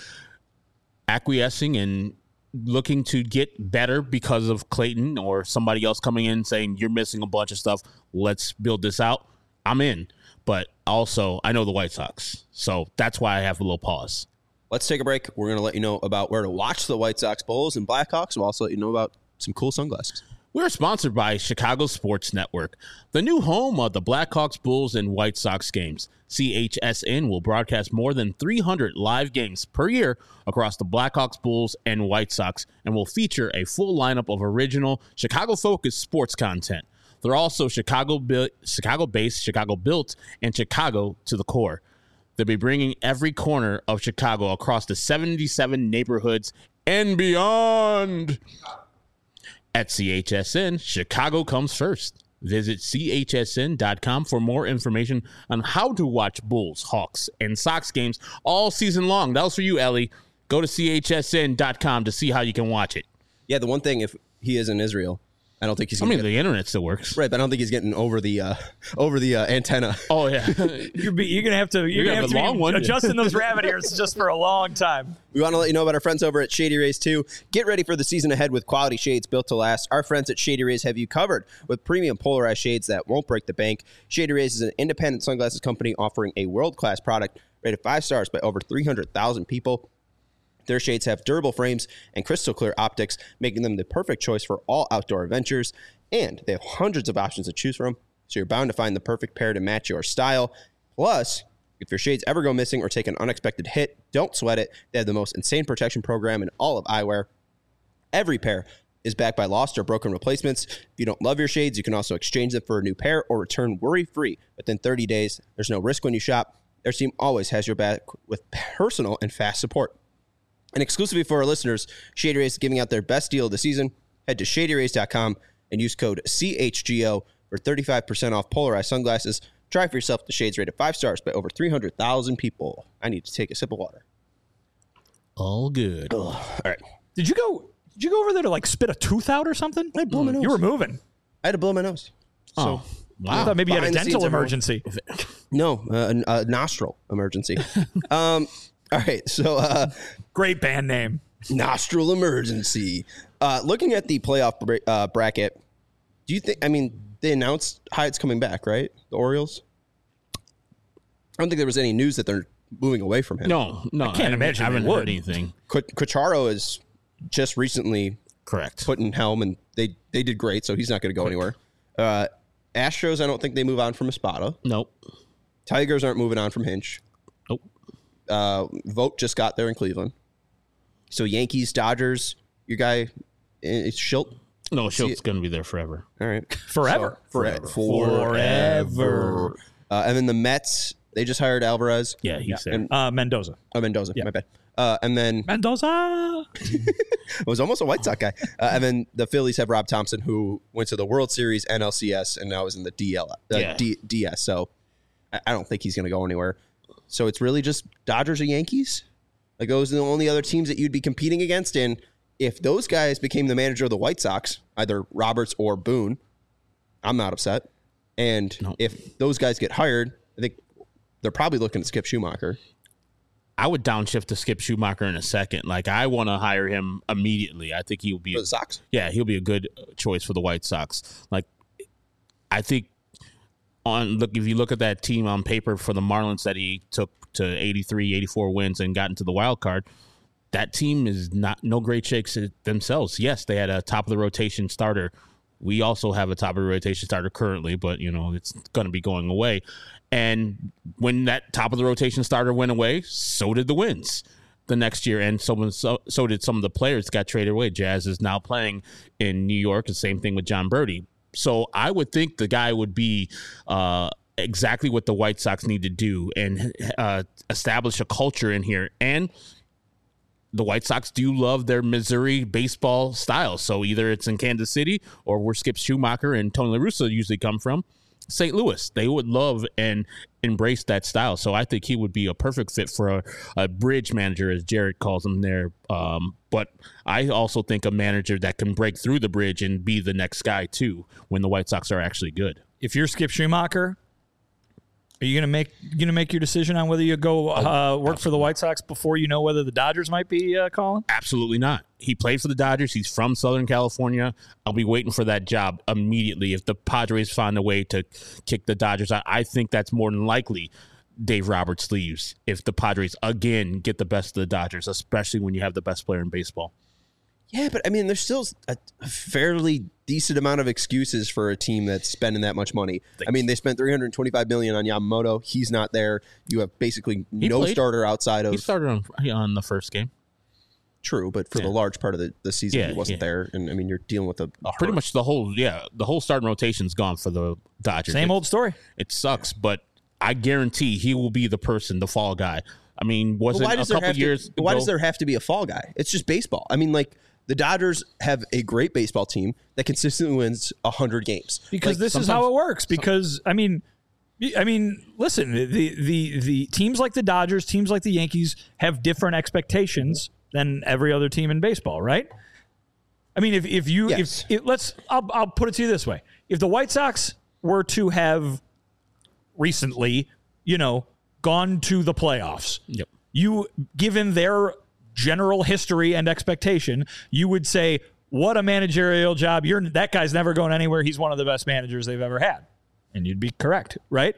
acquiescing and looking to get better because of Clayton or somebody else coming in saying you're missing a bunch of stuff, let's build this out, I'm in. But also, I know the White Sox, so that's why I have a little pause. Let's take a break. We're going to let you know about where to watch the White Sox Bulls and Blackhawks. We'll also let you know about some cool sunglasses. We're sponsored by Chicago Sports Network, the new home of the Blackhawks, Bulls, and White Sox games. C H S N will broadcast more than three hundred live games per year across the Blackhawks, Bulls, and White Sox, and will feature a full lineup of original Chicago-focused sports content. They're also Chicago-based, Chicago-built, and Chicago to the core. They'll be bringing every corner of Chicago across the seventy-seven neighborhoods and beyond. At C H S N, Chicago comes first. Visit C H S N dot com for more information on how to watch Bulls, Hawks, and Sox games all season long. That was for you, Ellie. Go to C H S N dot com to see how you can watch it. Yeah, the one thing, if he is in Israel, I don't think he's I gonna mean, get, the internet still works. right, but I don't think he's getting over the uh, over the uh, antenna. Oh, yeah. You're, be, you're gonna have to. You're, You're gonna gonna have, have to a long be one. adjusting those rabbit ears just for a long time. We want to let you know about our friends over at Shady Rays too. Get ready for the season ahead with quality shades built to last. Our friends at Shady Rays have you covered with premium polarized shades that won't break the bank. Shady Rays is an independent sunglasses company offering a world-class product rated five stars by over three hundred thousand people. Their shades have durable frames and crystal clear optics, making them the perfect choice for all outdoor adventures. And they have hundreds of options to choose from, so you're bound to find the perfect pair to match your style. Plus, if your shades ever go missing or take an unexpected hit, don't sweat it. They have the most insane protection program in all of eyewear. Every pair is backed by lost or broken replacements. If you don't love your shades, you can also exchange them for a new pair or return worry-free within thirty days. There's no risk when you shop. Their team always has your back with personal and fast support. And exclusively for our listeners, Shady Rays is giving out their best deal of the season. Head to shady rays dot com and use code C H G O for thirty-five percent off polarized sunglasses. Try for yourself the shades rated five stars by over three hundred thousand people. I need to take a sip of water. All good. Ugh. All right. Did you go? Did you go over there to like spit a tooth out or something? I blew my nose. You were moving. I had to blow my nose. Oh, So, I wow. thought maybe you had a Behind the dental scenes, everyone. emergency. no, uh, a, a nostril emergency. um. All right. So, uh, Great band name. nostril emergency. Uh, looking at the playoff bra- uh, bracket, do you think? I mean, they announced Hyatt's coming back, right? The Orioles. I don't think there was any news that they're moving away from him. No, no. I can't imagine I they haven't would. heard anything. Q- Quacharo is just recently Correct. put in helm, and they they did great, so he's not going to go anywhere. Uh, Astros, I don't think they move on from Espada. Nope. Tigers aren't moving on from Hinch. Nope. Uh, Vogt just got there in Cleveland. So Yankees, Dodgers, your guy, it's Schilt. No, Schultz going to be there forever. All right. Forever. So, forever. Forever. Uh, and then the Mets, they just hired Alvarez. Yeah, he's there. And, Uh, Mendoza. oh, Mendoza, my bad. Uh, and then Mendoza. it was almost a White Sox guy. Uh, and then the Phillies have Rob Thompson, who went to the World Series, N L C S, and now is in the D L, uh, Yeah. D, DS. So I, I don't think he's going to go anywhere. So it's really just Dodgers or Yankees. Like those are the only other teams that you'd be competing against. And if those guys became the manager of the White Sox, either Roberts or Boone, I'm not upset. And No. if those guys get hired, I think they're probably looking at Skip Schumacher. I would downshift to Skip Schumacher in a second. Like, I want to hire him immediately. I think he'll be, For the Sox? yeah, he'll be a good choice for the White Sox. Like, I think on look if you look at that team on paper for the Marlins that he took to eighty-three, eighty-four wins and got into the wild card, that team is not no great shakes themselves. Yes, they had a top of the rotation starter. We also have a top of the rotation starter currently, but you know it's going to be going away. And when that top of the rotation starter went away, so did the wins the next year, and so so, so did some of the players that got traded away. Jazz is now playing in New York. The same thing with John Birdie. So I would think the guy would be uh, exactly what the White Sox need to do and uh, establish a culture in here. And the White Sox do love their Missouri baseball style. So either it's in Kansas City or where Skip Schumacher and Tony La Russa usually come from, Saint Louis. They would love and embrace that style. So I think he would be a perfect fit for a, a bridge manager, as Jared calls him there. Um, but I also think a manager that can break through the bridge and be the next guy, too, when the White Sox are actually good. If you're Skip Schumacher, are you gonna make you gonna make your decision on whether you go uh, work for the White Sox before you know whether the Dodgers might be uh, calling? Absolutely not. He played for the Dodgers. He's from Southern California. I'll be waiting for that job immediately. If the Padres find a way to kick the Dodgers out, I think that's more than likely Dave Roberts leaves if the Padres again get the best of the Dodgers, especially when you have the best player in baseball. Yeah, but I mean, there's still a fairly decent amount of excuses for a team that's spending that much money. I mean, they spent three hundred twenty-five million dollars on Yamamoto. He's not there. You have basically He no played. starter outside of He started on on the first game. True, but for Yeah. the large part of the, the season, Yeah, he wasn't yeah. there. And I mean, you're dealing with a, a Pretty hurt. much the whole, yeah, the whole starting rotation's gone for the Dodgers. Same It- old story. It sucks, but I guarantee he will be the person, the fall guy. I mean, was Well, it a couple years to, why ago? does there have to be a fall guy? It's just baseball. I mean, like, the Dodgers have a great baseball team that consistently wins one hundred games. Because like, this is how it works. Because, I mean, I mean, listen, the, the, the teams like the Dodgers, teams like the Yankees have different expectations than every other team in baseball, right? I mean, if, if you, Yes. if it, let's, I'll, I'll put it to you this way. If the White Sox were to have recently, you know, gone to the playoffs, Yep. you, given their general history and expectation, you would say, what a managerial job. You're that guy's never going anywhere. He's one of the best managers they've ever had. And you'd be correct, right?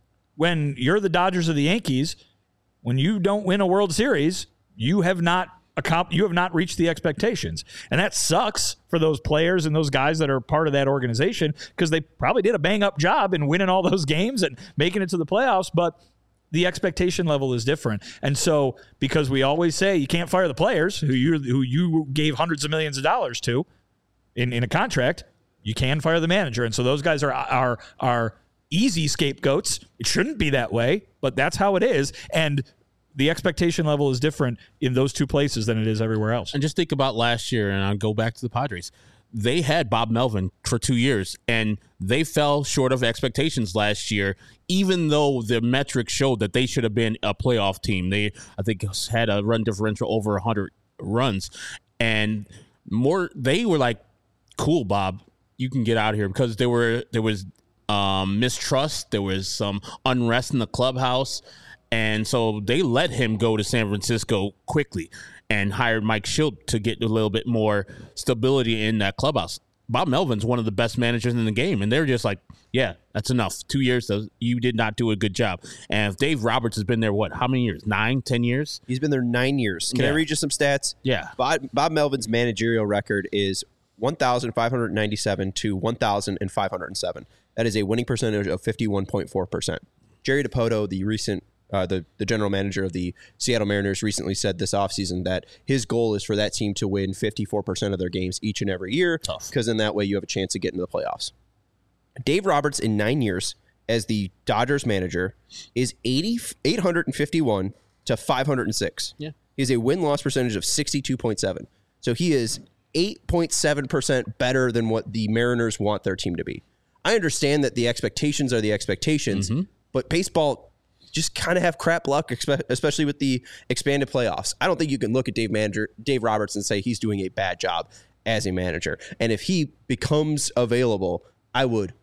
When you're the Dodgers or the Yankees, when you don't win a World Series, you have not you have not reached the expectations. And that sucks for those players and those guys that are part of that organization, because they probably did a bang-up job in winning all those games and making it to the playoffs, but the expectation level is different. And so, because we always say you can't fire the players who you who you gave hundreds of millions of dollars to in, in a contract, you can fire the manager. And so those guys are are are easy scapegoats. It shouldn't be that way, but that's how it is. And the expectation level is different in those two places than it is everywhere else. And just think about last year, and I'll go back to the Padres. They had Bob Melvin for two years, and they fell short of expectations last year, even though the metrics showed that they should have been a playoff team. They, I think, had a run differential over one hundred runs. And more, they were like, cool, Bob, you can get out of here, because there were there was um, mistrust. There was some unrest in the clubhouse. And so they let him go to San Francisco quickly and hired Mike Shildt to get a little bit more stability in that clubhouse. Bob Melvin's one of the best managers in the game, and they're just like, yeah, that's enough. Two years, you did not do a good job. And if Dave Roberts has been there, what, how many years? Nine, ten years? He's been there nine years. Can Yeah. I read you some stats? Yeah. Bob, Bob Melvin's managerial record is one thousand five hundred ninety-seven to one thousand five hundred seven. That is a winning percentage of fifty-one point four percent. Jerry Dipoto, the recent Uh, the, the general manager of the Seattle Mariners, recently said this offseason that his goal is for that team to win fifty-four percent of their games each and every year, because in that way you have a chance to get into the playoffs. Dave Roberts, in nine years as the Dodgers manager, is eighty, eight hundred fifty-one to five hundred six. Yeah. He has a win-loss percentage of sixty-two point seven. So he is eight point seven percent better than what the Mariners want their team to be. I understand that the expectations are the expectations, Mm-hmm. but baseball just kind of have crap luck, expe- especially with the expanded playoffs. I don't think you can look at Dave manager Dave Roberts and say he's doing a bad job as a manager. And if he becomes available, I would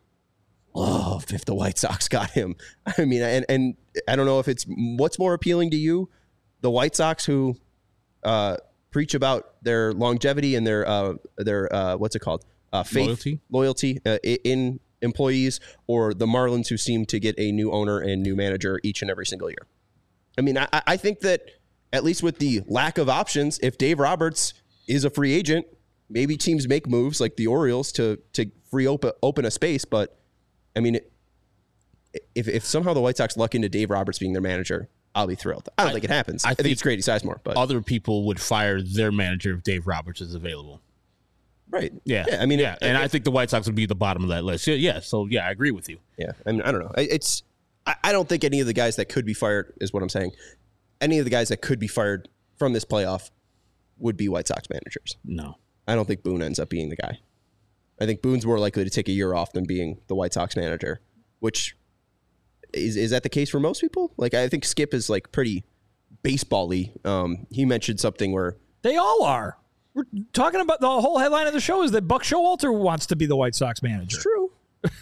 love if the White Sox got him. I mean, and and I don't know if it's what's more appealing to you, the White Sox who uh, preach about their longevity and their uh, their uh, what's it called uh, faith Loyalty, loyalty uh, in. employees, or the Marlins who seem to get a new owner and new manager each and every single year. I mean, I, I think that at least with the lack of options, if Dave Roberts is a free agent, maybe teams make moves like the Orioles to to free open open a space. But I mean, if if somehow the White Sox luck into Dave Roberts being their manager, I'll be thrilled. I don't I, think it happens. I, I think, think it's Grady Sizemore, but other people would fire their manager if Dave Roberts is available. Right. Yeah. yeah I mean, yeah. It, and it, I think the White Sox would be at the bottom of that list. Yeah. yeah. So, yeah, I agree with you. Yeah. I mean, I don't know. It's, I, I don't think any of the guys that could be fired is what I'm saying. Any of the guys that could be fired from this playoff would be White Sox managers. No. I don't think Boone ends up being the guy. I think Boone's more likely to take a year off than being the White Sox manager, which is, is that the case for most people? Like, I think Skip is like pretty baseball-y. Um, he mentioned something where they all are. We're talking about the whole headline of the show is that Buck Showalter wants to be the White Sox manager. It's true.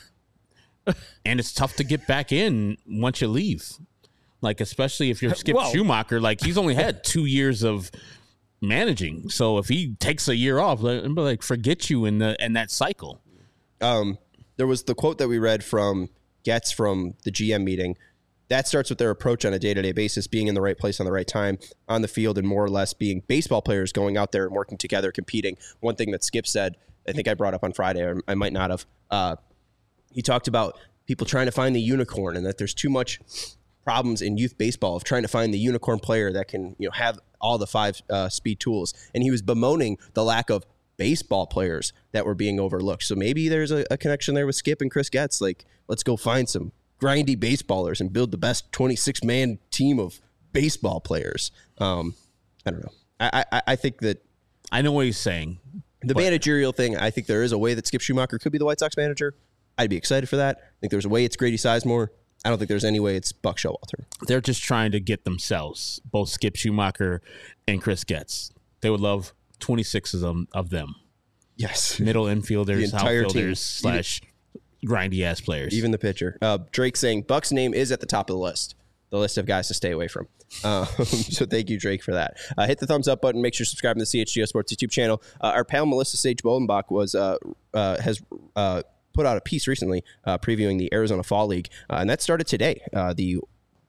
And it's tough to get back in once you leave. Like, especially if you're Skip well, Schumacher, like he's only had two years of managing. So if he takes a year off, like forget you in the in that cycle. Um, there was the quote that we read from Getz from the G M meeting. That starts with their approach on a day-to-day basis, being in the right place on the right time on the field, and more or less being baseball players going out there and working together, competing. One thing that Skip said, I think I brought up on Friday, or I might not have, uh, he talked about people trying to find the unicorn and that there's too much problems in youth baseball of trying to find the unicorn player that can, you know, have all the five uh, speed tools. And he was bemoaning the lack of baseball players that were being overlooked. So maybe there's a, a connection there with Skip and Chris Getz. Like, let's go find some grindy baseballers and build the best twenty-six man team of baseball players. Um, I don't know. I, I, I think that I know what he's saying. The but. managerial thing, I think there is a way that Skip Schumacher could be the White Sox manager. I'd be excited for that. I think there's a way it's Grady Sizemore. I don't think there's any way it's Buck Showalter. They're just trying to get themselves, both Skip Schumacher and Chris Getz. They would love twenty-six of them. Of them. Yes. Middle infielders, entire outfielders, team. slash grindy-ass players. Even the pitcher. Uh, Drake saying Buck's name is at the top of the list. The list of guys to stay away from. Um, so thank you, Drake, for that. Uh, hit the thumbs up button. Make sure you subscribe to the C H G O Sports YouTube channel. Uh, our pal Melissa Sage Bolenbach was uh, uh, has uh, put out a piece recently uh, previewing the Arizona Fall League, uh, and that started today. Uh, the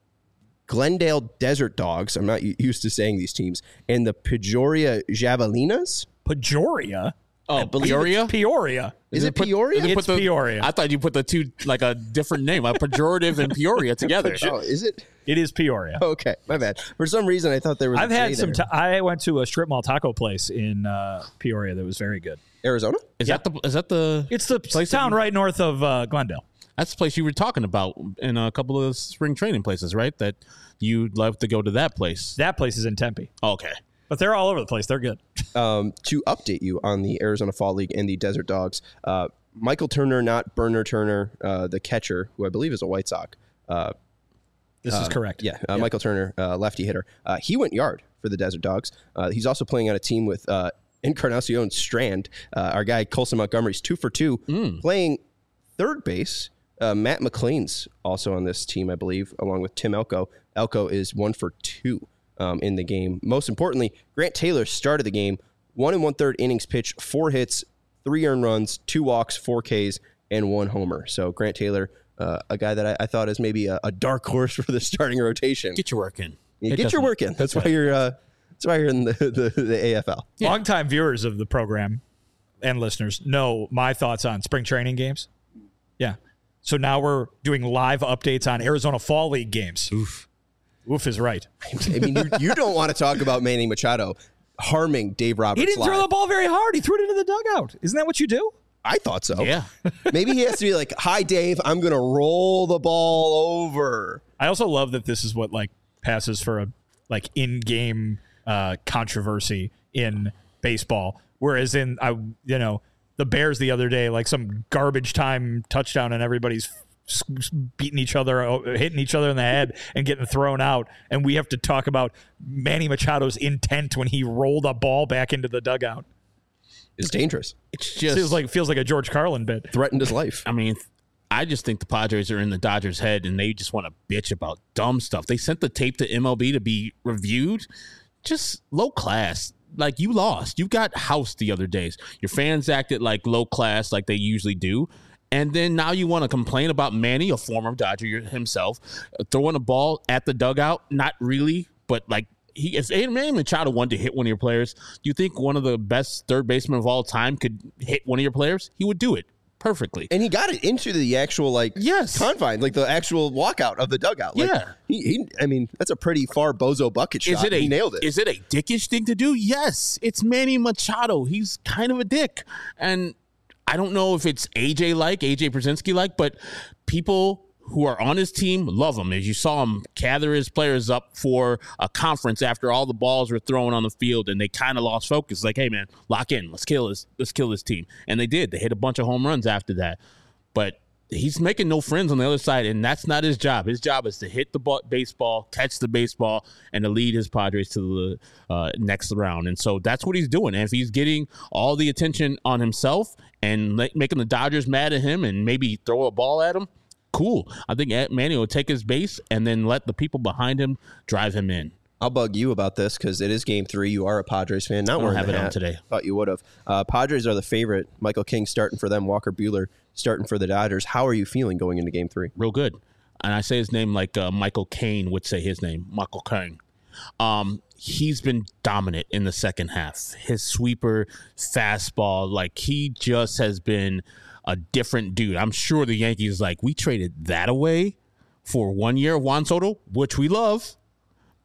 Glendale Desert Dogs, I'm not used to saying these teams, and the Peoria Javelinas. Peoria? Oh, Peoria? Peoria. Is, is it put, Peoria? Is it It's the, Peoria. I thought you put the two, like a different name, a pejorative and Peoria together. Oh, is it? It is Peoria. Okay, my bad. For some reason, I thought there was I've a had J some. there. T- I went to a strip mall taco place in uh, Peoria that was very good. Arizona? Is that the? Is that the? It's the place town that you- right north of uh, Glendale. That's the place you were talking about in a couple of spring training places, right? That you'd love to go to that place. That place is in Tempe, Okay. but they're all over the place. They're good. Um, to update you on the Arizona Fall League and the Desert Dogs, uh, Michael Turner, not Burner Turner, uh, the catcher, who I believe is a White Sox. Uh, This is correct. yeah, uh, Michael Turner, uh, lefty hitter. Uh, he went yard for the Desert Dogs. Uh, he's also playing on a team with uh, Encarnacion Strand. Uh, our guy Colson Montgomery's two for two, playing third base. Uh, Matt McLean's also on this team, I believe, along with Tim Elko. Elko is one for two um, in the game. Most importantly, Grant Taylor started the game, one and one third innings pitched, four hits, three earned runs, two walks, four Ks, and one homer. So Grant Taylor, uh, a guy that I, I thought is maybe a, a dark horse for the starting rotation. Get your work in. Yeah, It get your doesn't- work in. That's why you're. Uh, that's why you're in the, the, the A F L. Yeah. Longtime viewers of the program and listeners know my thoughts on spring training games. Yeah. So now we're doing live updates on Arizona Fall League games. Oof. Oof is right. I mean, you, you don't want to talk about Manny Machado harming Dave Roberts. He didn't live. throw the ball very hard. He threw it into the dugout. Isn't that what you do? I thought so. Yeah. Maybe he has to be like, "Hi, Dave. I'm going to roll the ball over." I also love that this is what like passes for a like in-game uh, controversy in baseball. Whereas in I you know the Bears the other day, like some garbage time touchdown and everybody's s- s- beating each other, uh, hitting each other in the head and getting thrown out. And we have to talk about Manny Machado's intent when he rolled a ball back into the dugout. It's dangerous. It's just Feels like feels like a George Carlin bit. Threatened his life. I mean, I just think the Padres are in the Dodgers' head and they just want to bitch about dumb stuff. They sent the tape to M L B to be reviewed. Just low class. Like, you lost. You got housed the other days. Your fans acted like low class like they usually do. And then now you want to complain about Manny, a former Dodger himself, throwing a ball at the dugout. Not really, but like, he if Manny Machado wanted to hit one of your players, do you think one of the best third basemen of all time could hit one of your players? He would do it perfectly. And he got it into the actual like Yes. confine, like the actual walkout of the dugout. Like, Yeah. he, he. I mean, that's a pretty far bozo bucket shot. Is it a he nailed it. Is it a dickish thing to do? Yes, it's Manny Machado. He's kind of a dick, and I don't know if it's A J like A J Brzezinski like, but people who are on his team love him. As you saw him gather his players up for a conference after all the balls were thrown on the field, and they kind of lost focus. Like, hey man, lock in. Let's kill this. Let's kill this team. And they did. They hit a bunch of home runs after that. But he's making no friends on the other side, and that's not his job. His job is to hit the ball, baseball, catch the baseball, and to lead his Padres to the uh, next round. And so that's what he's doing. And if he's getting all the attention on himself and ma- making the Dodgers mad at him and maybe throw a ball at him, cool. I think Manny will take his base and then let the people behind him drive him in. I'll bug you about this because it is game three. You are a Padres fan. Not don't wearing have the it on hat. today. Thought you would have. Uh, Padres are the favorite. Michael King starting for them. Walker Buehler starting for the Dodgers. How are you feeling going into game three? Real good. And I say his name like uh, Michael Caine would say his name, Michael Caine. Um, he's been dominant in the second half. His sweeper, fastball, like he just has been a different dude. I'm sure the Yankees like, we traded that away for one year of Juan Soto, which we love,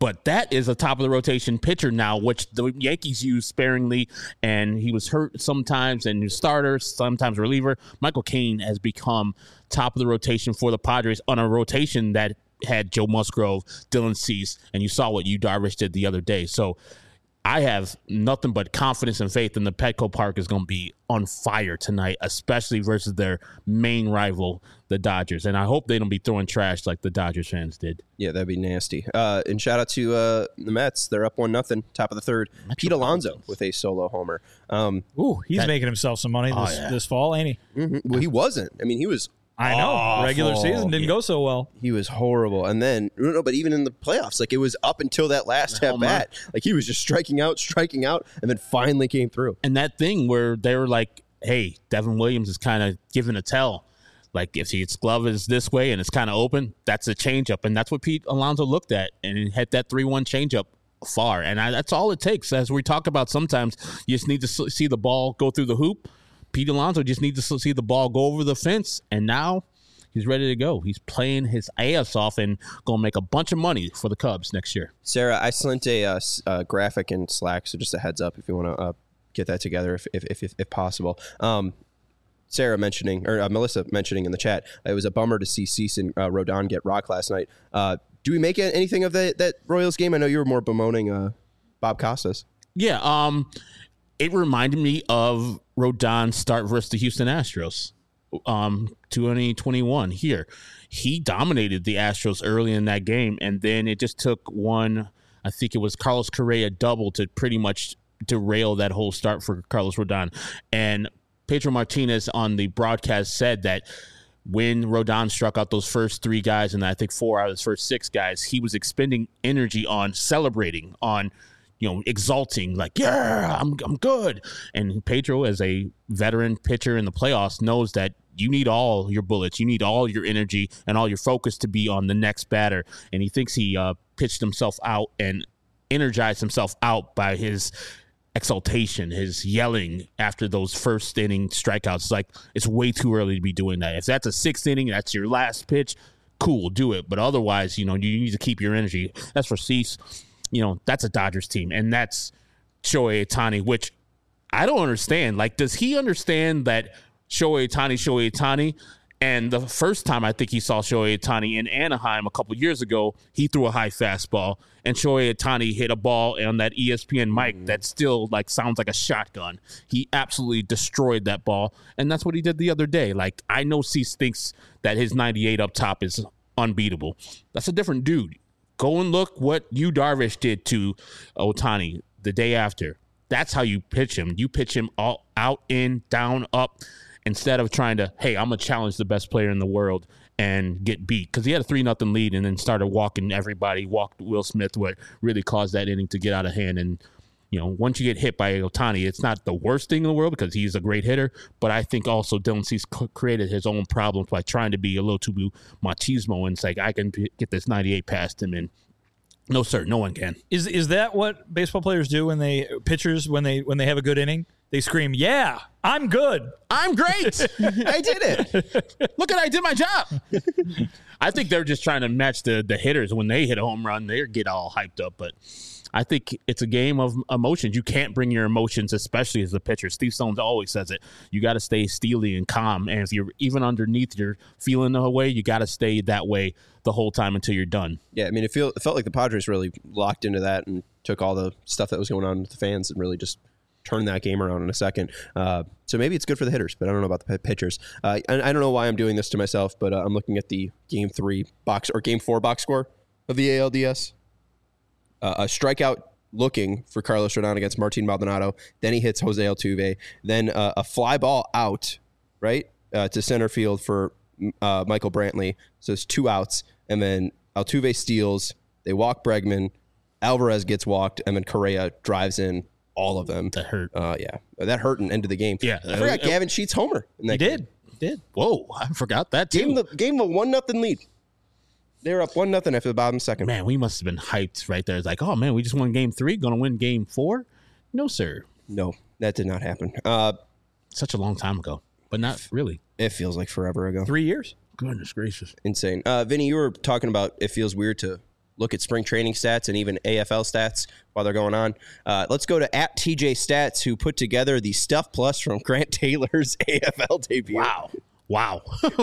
But that is a top of the rotation pitcher now, which the Yankees use sparingly, and he was hurt sometimes and starter, sometimes reliever. Michael Caine has become top of the rotation for the Padres on a rotation that had Joe Musgrove, Dylan Cease, and you saw what Yu Darvish did the other day. So I have nothing but confidence and faith in the Petco Park is going to be on fire tonight, especially versus their main rival, the Dodgers. And I hope they don't be throwing trash like the Dodgers fans did. Yeah, that'd be nasty. Uh, and shout out to uh, the Mets. They're up one nothing, top of the third. Pete Alonso with a solo homer. Um, Ooh, he's that, making himself some money this, oh, yeah. this fall, ain't he? Mm-hmm. Well, he wasn't. I mean, he was I know. awful. Regular season didn't go so well. He was horrible. And then, no, but even in the playoffs, like it was up until that last at bat. Like he was just striking out, striking out, and then finally came through. And that thing where they were like, hey, Devin Williams is kind of giving a tell. Like if his glove is this way and it's kind of open, that's a changeup. And that's what Pete Alonso looked at and he had that three one changeup far. And I, that's all it takes. As we talk about sometimes, you just need to see the ball go through the hoop. Pete Alonso just needs to see the ball go over the fence, and now he's ready to go. He's playing his ass off and going to make a bunch of money for the Cubs next year. Sarah, I sent a uh, uh, graphic in Slack, so just a heads up if you want to uh, get that together if if, if, if possible. Um, Sarah mentioning, or uh, Melissa mentioning in the chat, it was a bummer to see Cease and uh, Rodon get rocked last night. Uh, do we make anything of that, that Royals game? I know you were more bemoaning uh, Bob Costas. Yeah, um, it reminded me of Rodon's start versus the Houston Astros. Um, twenty twenty-one here. He dominated the Astros early in that game, and then it just took one, I think it was Carlos Correa double to pretty much derail that whole start for Carlos Rodon. And Pedro Martinez on the broadcast said that when Rodon struck out those first three guys, and I think four out of his first six guys, he was expending energy on celebrating, on you know, exalting, like, yeah, I'm I'm good. And Pedro, as a veteran pitcher in the playoffs, knows that you need all your bullets, you need all your energy and all your focus to be on the next batter. And he thinks he uh, pitched himself out and energized himself out by his exaltation, his yelling after those first inning strikeouts. It's like, it's way too early to be doing that. If that's a sixth inning, that's your last pitch, cool, do it. But otherwise, you know, you need to keep your energy. That's for Cease. You know, that's a Dodgers team, and that's Shohei Ohtani, which I don't understand. Like, does he understand that Shohei Ohtani, Shohei Ohtani? And the first time I think he saw Shohei Ohtani in Anaheim a couple years ago, he threw a high fastball, and Shohei Ohtani hit a ball on that E S P N mic mm. that still like sounds like a shotgun. He absolutely destroyed that ball, and that's what he did the other day. Like, I know Cease thinks that his ninety-eight up top is unbeatable. That's a different dude. Go and look what Yu Darvish did to Ohtani the day after. That's how you pitch him. You pitch him all out, in, down, up, instead of trying to, hey, I'm going to challenge the best player in the world and get beat. Because he had a three nothing lead and then started walking everybody, walked Will Smith, what really caused that inning to get out of hand. And, you know, once you get hit by Ohtani, it's not the worst thing in the world because he's a great hitter. But I think also Dylan Cease created his own problems by trying to be a little too machismo. And it's like, I can p- get this ninety-eight past him. And no, sir, no one can. Is is that what baseball players do when they, pitchers, when they when they have a good inning? They scream, yeah, I'm good. I'm great. I did it. Look at I did my job. I think they're just trying to match the, the hitters. When they hit a home run, they get all hyped up. But I think it's a game of emotions. You can't bring your emotions, especially as a pitcher. Steve Stones always says it. You got to stay steely and calm. And if you're even underneath, you're feeling the way, you got to stay that way the whole time until you're done. Yeah, I mean, it, feel, it felt like the Padres really locked into that and took all the stuff that was going on with the fans and really just turn that game around in a second. Uh, so maybe it's good for the hitters, but I don't know about the pitchers. Uh, and I don't know why I'm doing this to myself, but uh, I'm looking at the game three box or game four box score of the A L D S. Uh, a strikeout looking for Carlos Rodon against Martin Maldonado. Then he hits Jose Altuve. Then uh, a fly ball out, right, uh, to center field for uh, Michael Brantley. So it's two outs. And then Altuve steals. They walk Bregman. Alvarez gets walked. And then Correa drives in all of them. That hurt. Uh, yeah. That hurt and ended the game. Yeah. I forgot uh, Gavin Sheets homer. In that he game. did. He did. Whoa. I forgot that too. Gave him, the, gave him a one nothing lead. They were up one nothing after the bottom second. Man, we must have been hyped right there. It's like, oh, man, we just won game three. Going to win game four? No, sir. No, that did not happen. Uh, Such a long time ago, but not really. It feels like forever ago. Three years? Goodness gracious. Insane. Uh, Vinny, you were talking about it feels weird to look at spring training stats and even A F L stats while they're going on. Uh, let's go to at T J Stats, who put together the Stuff Plus from Grant Taylor's A F L debut. Wow. Wow.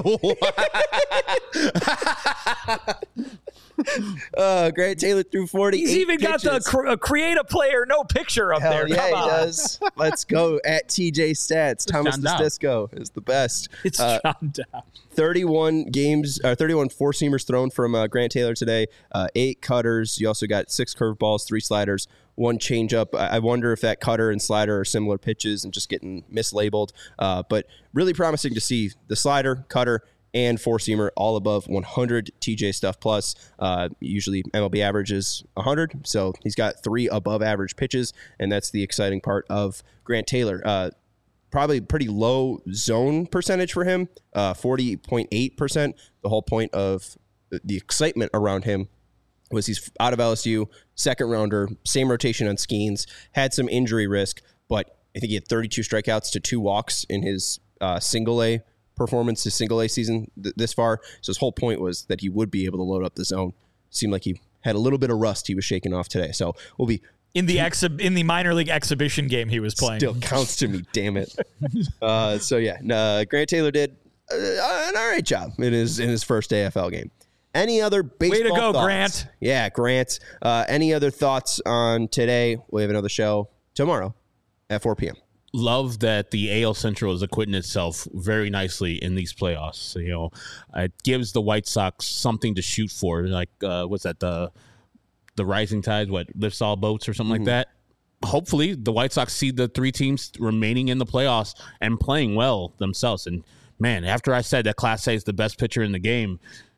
uh, Grant Taylor threw forty. He's even pitches. got the cr- create a player, no picture up Hell there. yeah, Come he on. does. Let's go at T J Stats. Thomas John Dow. Disco is the best. It's Uh, John Dow. thirty-one games, or thirty-one four seamers thrown from uh, Grant Taylor today. Uh, eight cutters. You also got six curveballs, three sliders, one changeup. I I wonder if that cutter and slider are similar pitches and just getting mislabeled. Uh, but really promising to see the slider, cutter, and four seamer all above one hundred T J Stuff Plus. Uh, usually M L B average is one hundred, so he's got three above average pitches, and that's the exciting part of Grant Taylor. Uh, Probably pretty low zone percentage for him, uh, forty point eight percent. The whole point of the excitement around him was he's out of L S U, second rounder, same rotation on Skeens, had some injury risk, but I think he had thirty-two strikeouts to two walks in his uh, single A performance, his single A season th- this far. So his whole point was that he would be able to load up the zone. Seemed like he had a little bit of rust he was shaking off today. So we'll be In the exhi- in the minor league exhibition game he was playing. Still counts to me, damn it. Uh, so yeah, uh, Grant Taylor did uh, an all right job in his in his first A F L game. Any other baseball Way to go, thoughts? Grant. Yeah, Grant. Uh, any other thoughts on today? We have another show tomorrow at four p.m. Love that the A L Central is acquitting itself very nicely in these playoffs. So, you know, it gives the White Sox something to shoot for. Like, uh, what's that? The the rising tide, what lifts all boats or something mm-hmm. like that. Hopefully, the White Sox see the three teams remaining in the playoffs and playing well themselves. And man, after I said that Class A is the best pitcher in the game,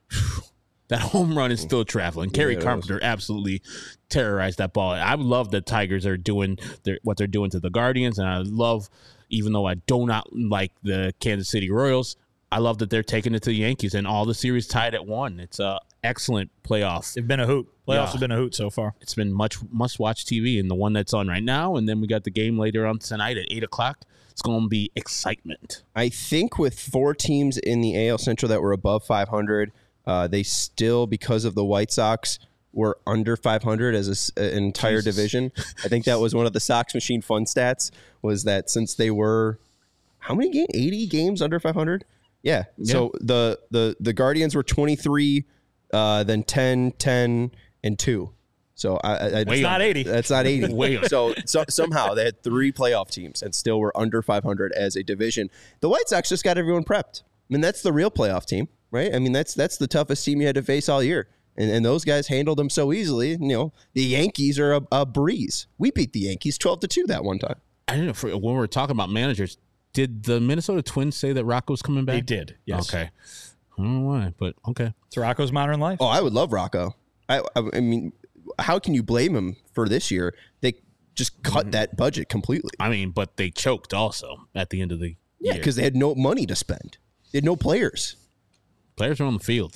that home run is still traveling. Yeah, Kerry Carpenter absolutely terrorized that ball. I love that Tigers are doing their, what they're doing to the Guardians, and I love, even though I do not like the Kansas City Royals, I love that they're taking it to the Yankees, and all the series tied at one. It's a excellent playoff. It's been a hoot. Playoffs Yeah. have been a hoot so far. It's been much must-watch T V, and the one that's on right now, and then we got the game later on tonight at eight o'clock. It's going to be excitement. I think with four teams in the A L Central that were above five hundred, uh, they still, because of the White Sox, were under five hundred as a s an entire Jesus. division. I think that was one of the Sox Machine fun stats, was that since they were, how many games? eighty games under five hundred? Yeah. yeah. So the, the, the Guardians were twenty-three, uh, then ten, ten, and two. So I, I, it's not eighty. That's not eighty. Way so, so somehow they had three playoff teams and still were under five hundred as a division. The White Sox just got everyone prepped. I mean, that's the real playoff team, right? I mean, that's that's the toughest team you had to face all year. And, and those guys handled them so easily. You know, the Yankees are a, a breeze. We beat the Yankees twelve to two that one time. I don't know, for, when we were talking about managers, did the Minnesota Twins say that Rocco's coming back? They did, yes. Okay. I don't know why, but okay. It's Rocco's Modern Life. Oh, I would love Rocco. I, I, I mean, how can you blame him for this year? They just cut mm. that budget completely. I mean, but they choked also at the end of the yeah, year. because they had no money to spend. They had no players. Players are on the field.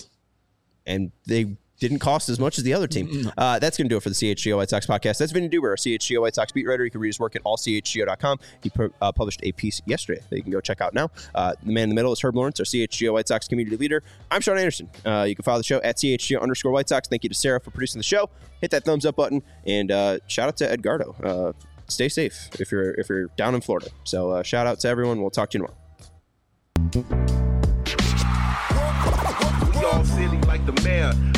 And they didn't cost as much as the other team. Uh, that's going to do it for the C H G O White Sox podcast. That's Vinny Duber, our C H G O White Sox beat writer. You can read his work at all C H G O dot com. He pu- uh, published a piece yesterday that you can go check out now. Uh, the man in the middle is Herb Lawrence, our C H G O White Sox community leader. I'm Sean Anderson. Uh, you can follow the show at C H G O underscore White Sox. Thank you to Sarah for producing the show. Hit that thumbs up button. And uh, shout out to Edgardo. Uh, stay safe if you're, if you're down in Florida. So uh, shout out to everyone. We'll talk to you tomorrow. We all silly like the mayor.